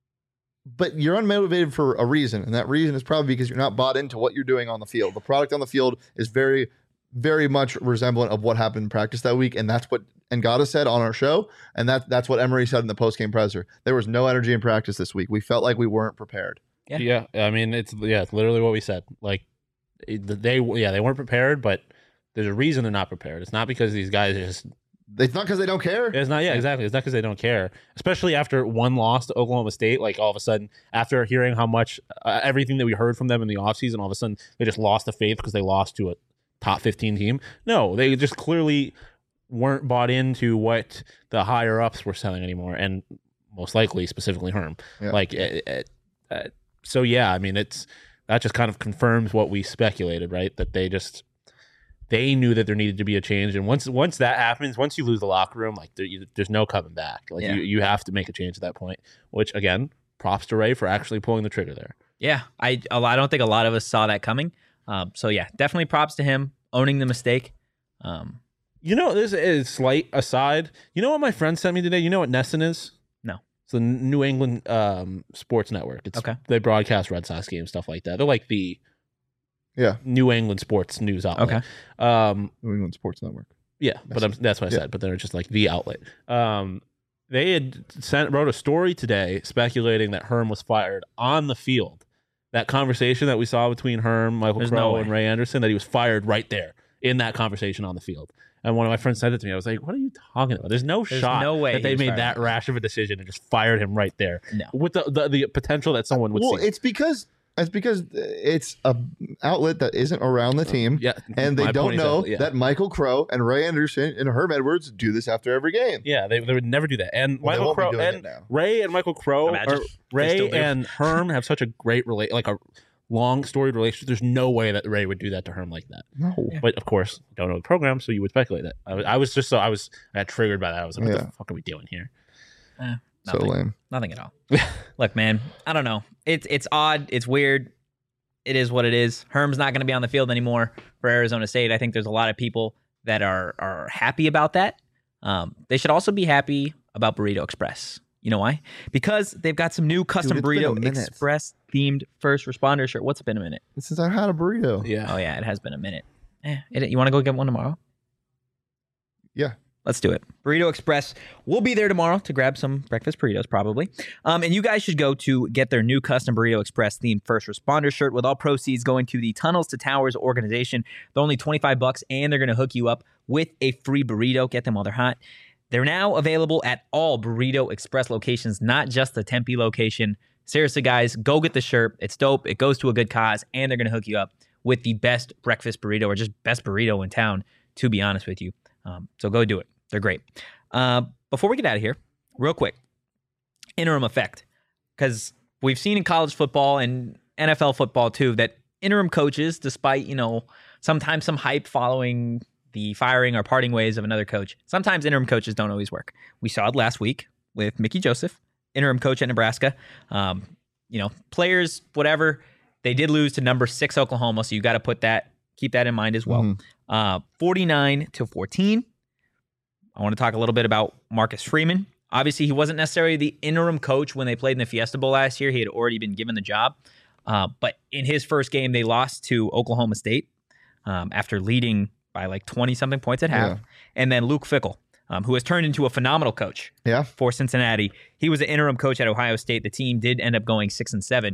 but you're unmotivated for a reason, and that reason is probably because you're not bought into what you're doing on the field. The product on the field is very very much resemblant of what happened in practice that week, and that's what Ngata said on our show, and that that's what Emery said in the post-game presser. There was no energy in practice this week. We felt like we weren't prepared. Yeah. yeah, I mean, it's yeah, it's literally what we said. Like it- they, yeah, they weren't prepared, but there's a reason they're not prepared. It's not because these guys are just. It's not because they don't care. It's not. Yeah, exactly. It's not because they don't care. Especially after one loss to Oklahoma State. Like all of a sudden, after hearing how much uh, everything that we heard from them in the offseason, all of a sudden they just lost the faith because they lost to a top fifteen team. No, they just clearly weren't bought into what the higher ups were selling anymore, and most likely specifically Herm. Yeah. Like, it, it, uh, so yeah. I mean, it's that just kind of confirms what we speculated, right? That they just they knew that there needed to be a change, and once once that happens, once you lose the locker room, like there, you, there's no coming back. Like Yeah. you, you have to make a change at that point. Which again, props to Ray for actually pulling the trigger there. Yeah, I a lot- I don't think a lot of us saw that coming. Um, so yeah, definitely props to him owning the mistake. Um, You know, this is slight aside. You know what my friend sent me today? You know what Nesson is? No. It's the New England um, Sports Network. It's, Okay. They broadcast Red Sox games, stuff like that. They're like the Yeah. New England sports news outlet. Okay. Um, New England Sports Network. yeah, but I'm, that's what I Yeah. said. But they're just like the outlet. Um, they had sent wrote a story today speculating that Herm was fired on the field. That conversation that we saw between Herm, Michael There's no Crow, way. and Ray Anderson, that he was fired right there in that conversation on the field. And one of my friends said it to me. I was like, "What are you talking about? There's no There's shot no way that he they was made fired. that rash of a decision and just fired him right there No. with the the, the potential that someone would Well, see." it's because it's because it's a outlet that isn't around the team, Yeah, and they my don't point know exactly, yeah. that Michael Crow and Ray Anderson and Herm Edwards do this after every game. Yeah, they, they would never do that. And Well, they Michael won't be Crow doing it and now. Ray and Michael Crow, Imagine or if they Ray still do. and Herm have such a great relate, like a long storied relationship. There's no way that Ray would do that to Herm like that. No. But of course, don't know the program, so you would speculate that. I was, I was just so I was I got triggered by that. I was like, "What Yeah. the fuck are we doing here?" eh, So nothing. lame. Nothing at all. Look, man, I don't know. It's it's odd. It's weird. It is what it is. Herm's not going to be on the field anymore for Arizona State. I think there's a lot of people that are are happy about that. Um, they should also be happy about Burrito Express. You know why? Because they've got some new custom it's been a Burrito minute. Express themed first responder shirt. What's it been a minute? Since I had a burrito. Yeah. Oh yeah, it has been a minute. Eh, it, you want to go get one tomorrow? Yeah. Let's do it. Burrito Express will be there tomorrow to grab some breakfast burritos, probably. Um, and you guys should go to get their new custom Burrito Express themed first responder shirt with all proceeds going to the Tunnels to Towers organization. They're only twenty-five bucks, and they're going to hook you up with a free burrito. Get them while they're hot. They're now available at all Burrito Express locations, not just the Tempe location. Seriously, guys, go get the shirt. It's dope. It goes to a good cause, and they're going to hook you up with the best breakfast burrito or just best burrito in town, to be honest with you. Um, so go do it. They're great. Uh, before we get out of here, real quick, interim effect. Because we've seen in college football and N F L football too that interim coaches, despite, you know, sometimes some hype following the firing or parting ways of another coach, sometimes interim coaches don't always work. We saw it last week with Mickey Joseph, interim coach at Nebraska. Um, you know, players, whatever, they did lose to number six Oklahoma, so you got to put that, keep that in mind as well. Mhm. Uh, forty-nine to fourteen. I want to talk a little bit about Marcus Freeman. Obviously, he wasn't necessarily the interim coach when they played in the Fiesta Bowl last year. He had already been given the job. Uh, but in his first game, they lost to Oklahoma State um, after leading by like twenty-something points at half. Yeah. And then Luke Fickell, um, who has turned into a phenomenal coach Yeah. for Cincinnati. He was an interim coach at Ohio State. The team did end up going six and seven.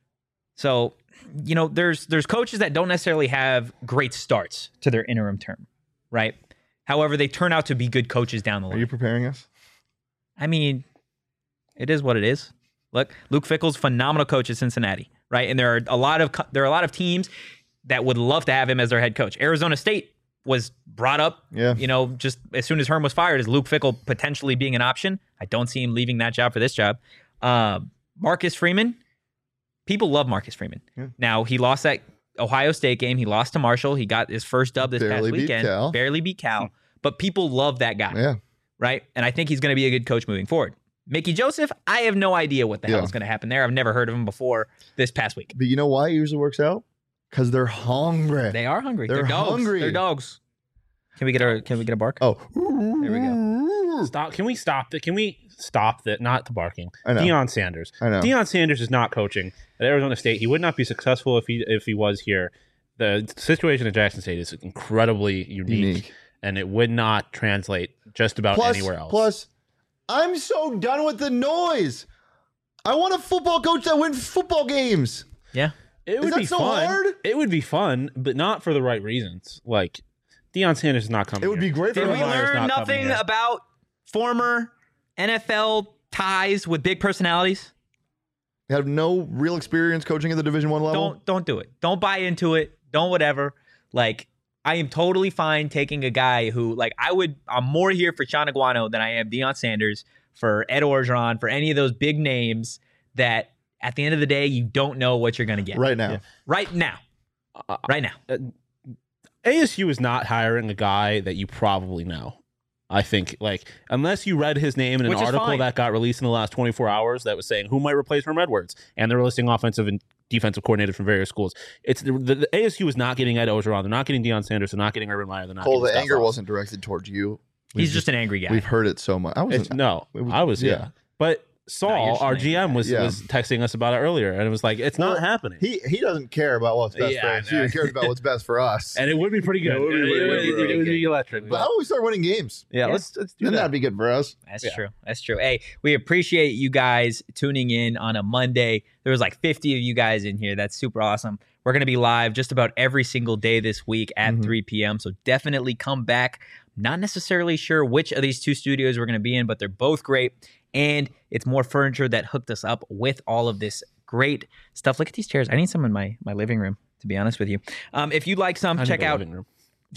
So, you know, there's there's coaches that don't necessarily have great starts to their interim term, right? However, they turn out to be good coaches down the Are line. you preparing us? I mean, it is what it is. Look, Luke Fickell's phenomenal coach at Cincinnati, right? And there are a lot of co- there are a lot of teams that would love to have him as their head coach. Arizona State was brought up, Yeah. you know, just as soon as Herm was fired, as Luke Fickell potentially being an option. I don't see him leaving that job for this job. Uh, Marcus Freeman, people love Marcus Freeman. Yeah. Now, he lost that Ohio State game. He lost to Marshall. He got his first dub this Barely past beat weekend. Cal. Barely beat Cal. But people love that guy, Yeah. right? And I think he's going to be a good coach moving forward. Mickey Joseph, I have no idea what the Yeah. hell is going to happen there. I've never heard of him before this past week. But you know why it usually works out? Because they're hungry. They are hungry. They're, They're dogs. hungry. They're dogs. Can we get a Can we get a bark? Oh. There we go. Stop. Can we stop that? Can we stop that? Not the barking. I know. Deion Sanders. I know. Deion Sanders is not coaching at Arizona State. He would not be successful if he if he was here. the situation at Jackson State is incredibly unique, Unique. and it would not translate just about Plus, anywhere else. plus, I'm so done with the noise. I want a football coach that wins football games. Yeah. it would that be so fun. hard? It would be fun, but not for the right reasons. Like Deion Sanders is not coming. It would here. be great for Did Urban we him. Meyer's learn not coming nothing here. about former N F L ties with big personalities? Have no real experience coaching at the Division One level. Don't don't do it. Don't buy into it. Don't whatever. Like I am totally fine taking a guy who like I would. I'm more here for Sean Aguano than I am Deion Sanders, for Ed Orgeron, for any of those big names that at the end of the day you don't know what you're gonna get right now. Yeah. right now. Uh, Right now. A S U is not hiring a guy that you probably know. I think, like, unless you read his name in an Which is article fine. that got released in the last twenty-four hours that was saying who might replace Herm Edwards, and they're listing offensive and defensive coordinators from various schools. It's the, the, the A S U is not getting Ed Orgeron. They're not getting Deion Sanders. They're not getting Urban Meyer. They're not Cole, getting the Scott anger Frost. wasn't directed towards you. We've He's just an angry guy. We've heard it so much. I was It's, no, it was- I was, yeah. yeah. But No, Saul, you're just our an G M, was, Yeah. was texting us about it earlier, and it was like, it's Well, not happening. He he doesn't care about what's best Yeah, for I us. know. He cares about what's best for us. and it would be pretty good. It would be It- really, it- really, it- really it would good. be electric. But how about we start winning games? yeah, Yeah. let's let's do Then that. that'd be good for us. That's Yeah. true. That's true. Hey, we appreciate you guys tuning in on a Monday. There was like fifty of you guys in here. That's super awesome. We're going to be live just about every single day this week at Mhm. three p.m. So definitely come back. Not necessarily sure which of these two studios we're going to be in, but they're both great. And it's More Furniture that hooked us up with all of this great stuff. Look at these chairs. I need some in my, my living room, to be honest with you. Um, if you'd like some, I need check the out living room.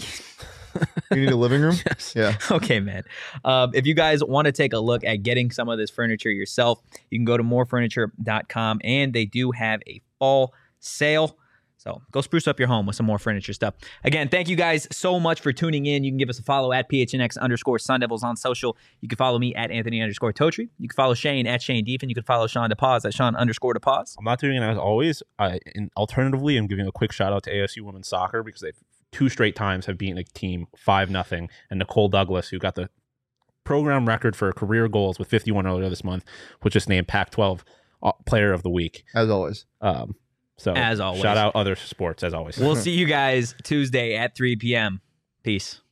You need a living room? Yes. Yeah. Okay, man. Um, if you guys want to take a look at getting some of this furniture yourself, you can go to more furniture dot com, and they do have a fall sale. So go spruce up your home with some More Furniture stuff. Again, thank you guys so much for tuning in. You can give us a follow at P H N X underscore Sun Devils on social. You can follow me at Anthony underscore Totri. You can follow Shane at Shane Deefin. You can follow Sean DePause at Sean underscore DePause. I'm not doing it as always. I, and alternatively, I'm giving a quick shout out to A S U women's soccer because they've two straight times have beaten a team five nothing. And Nicole Douglas, who got the program record for career goals with fifty-one earlier this month, was just named Pac twelve uh, Player of the Week. As always. Um, so As always. shout out other sports as always. We'll see you guys Tuesday at three p.m. Peace.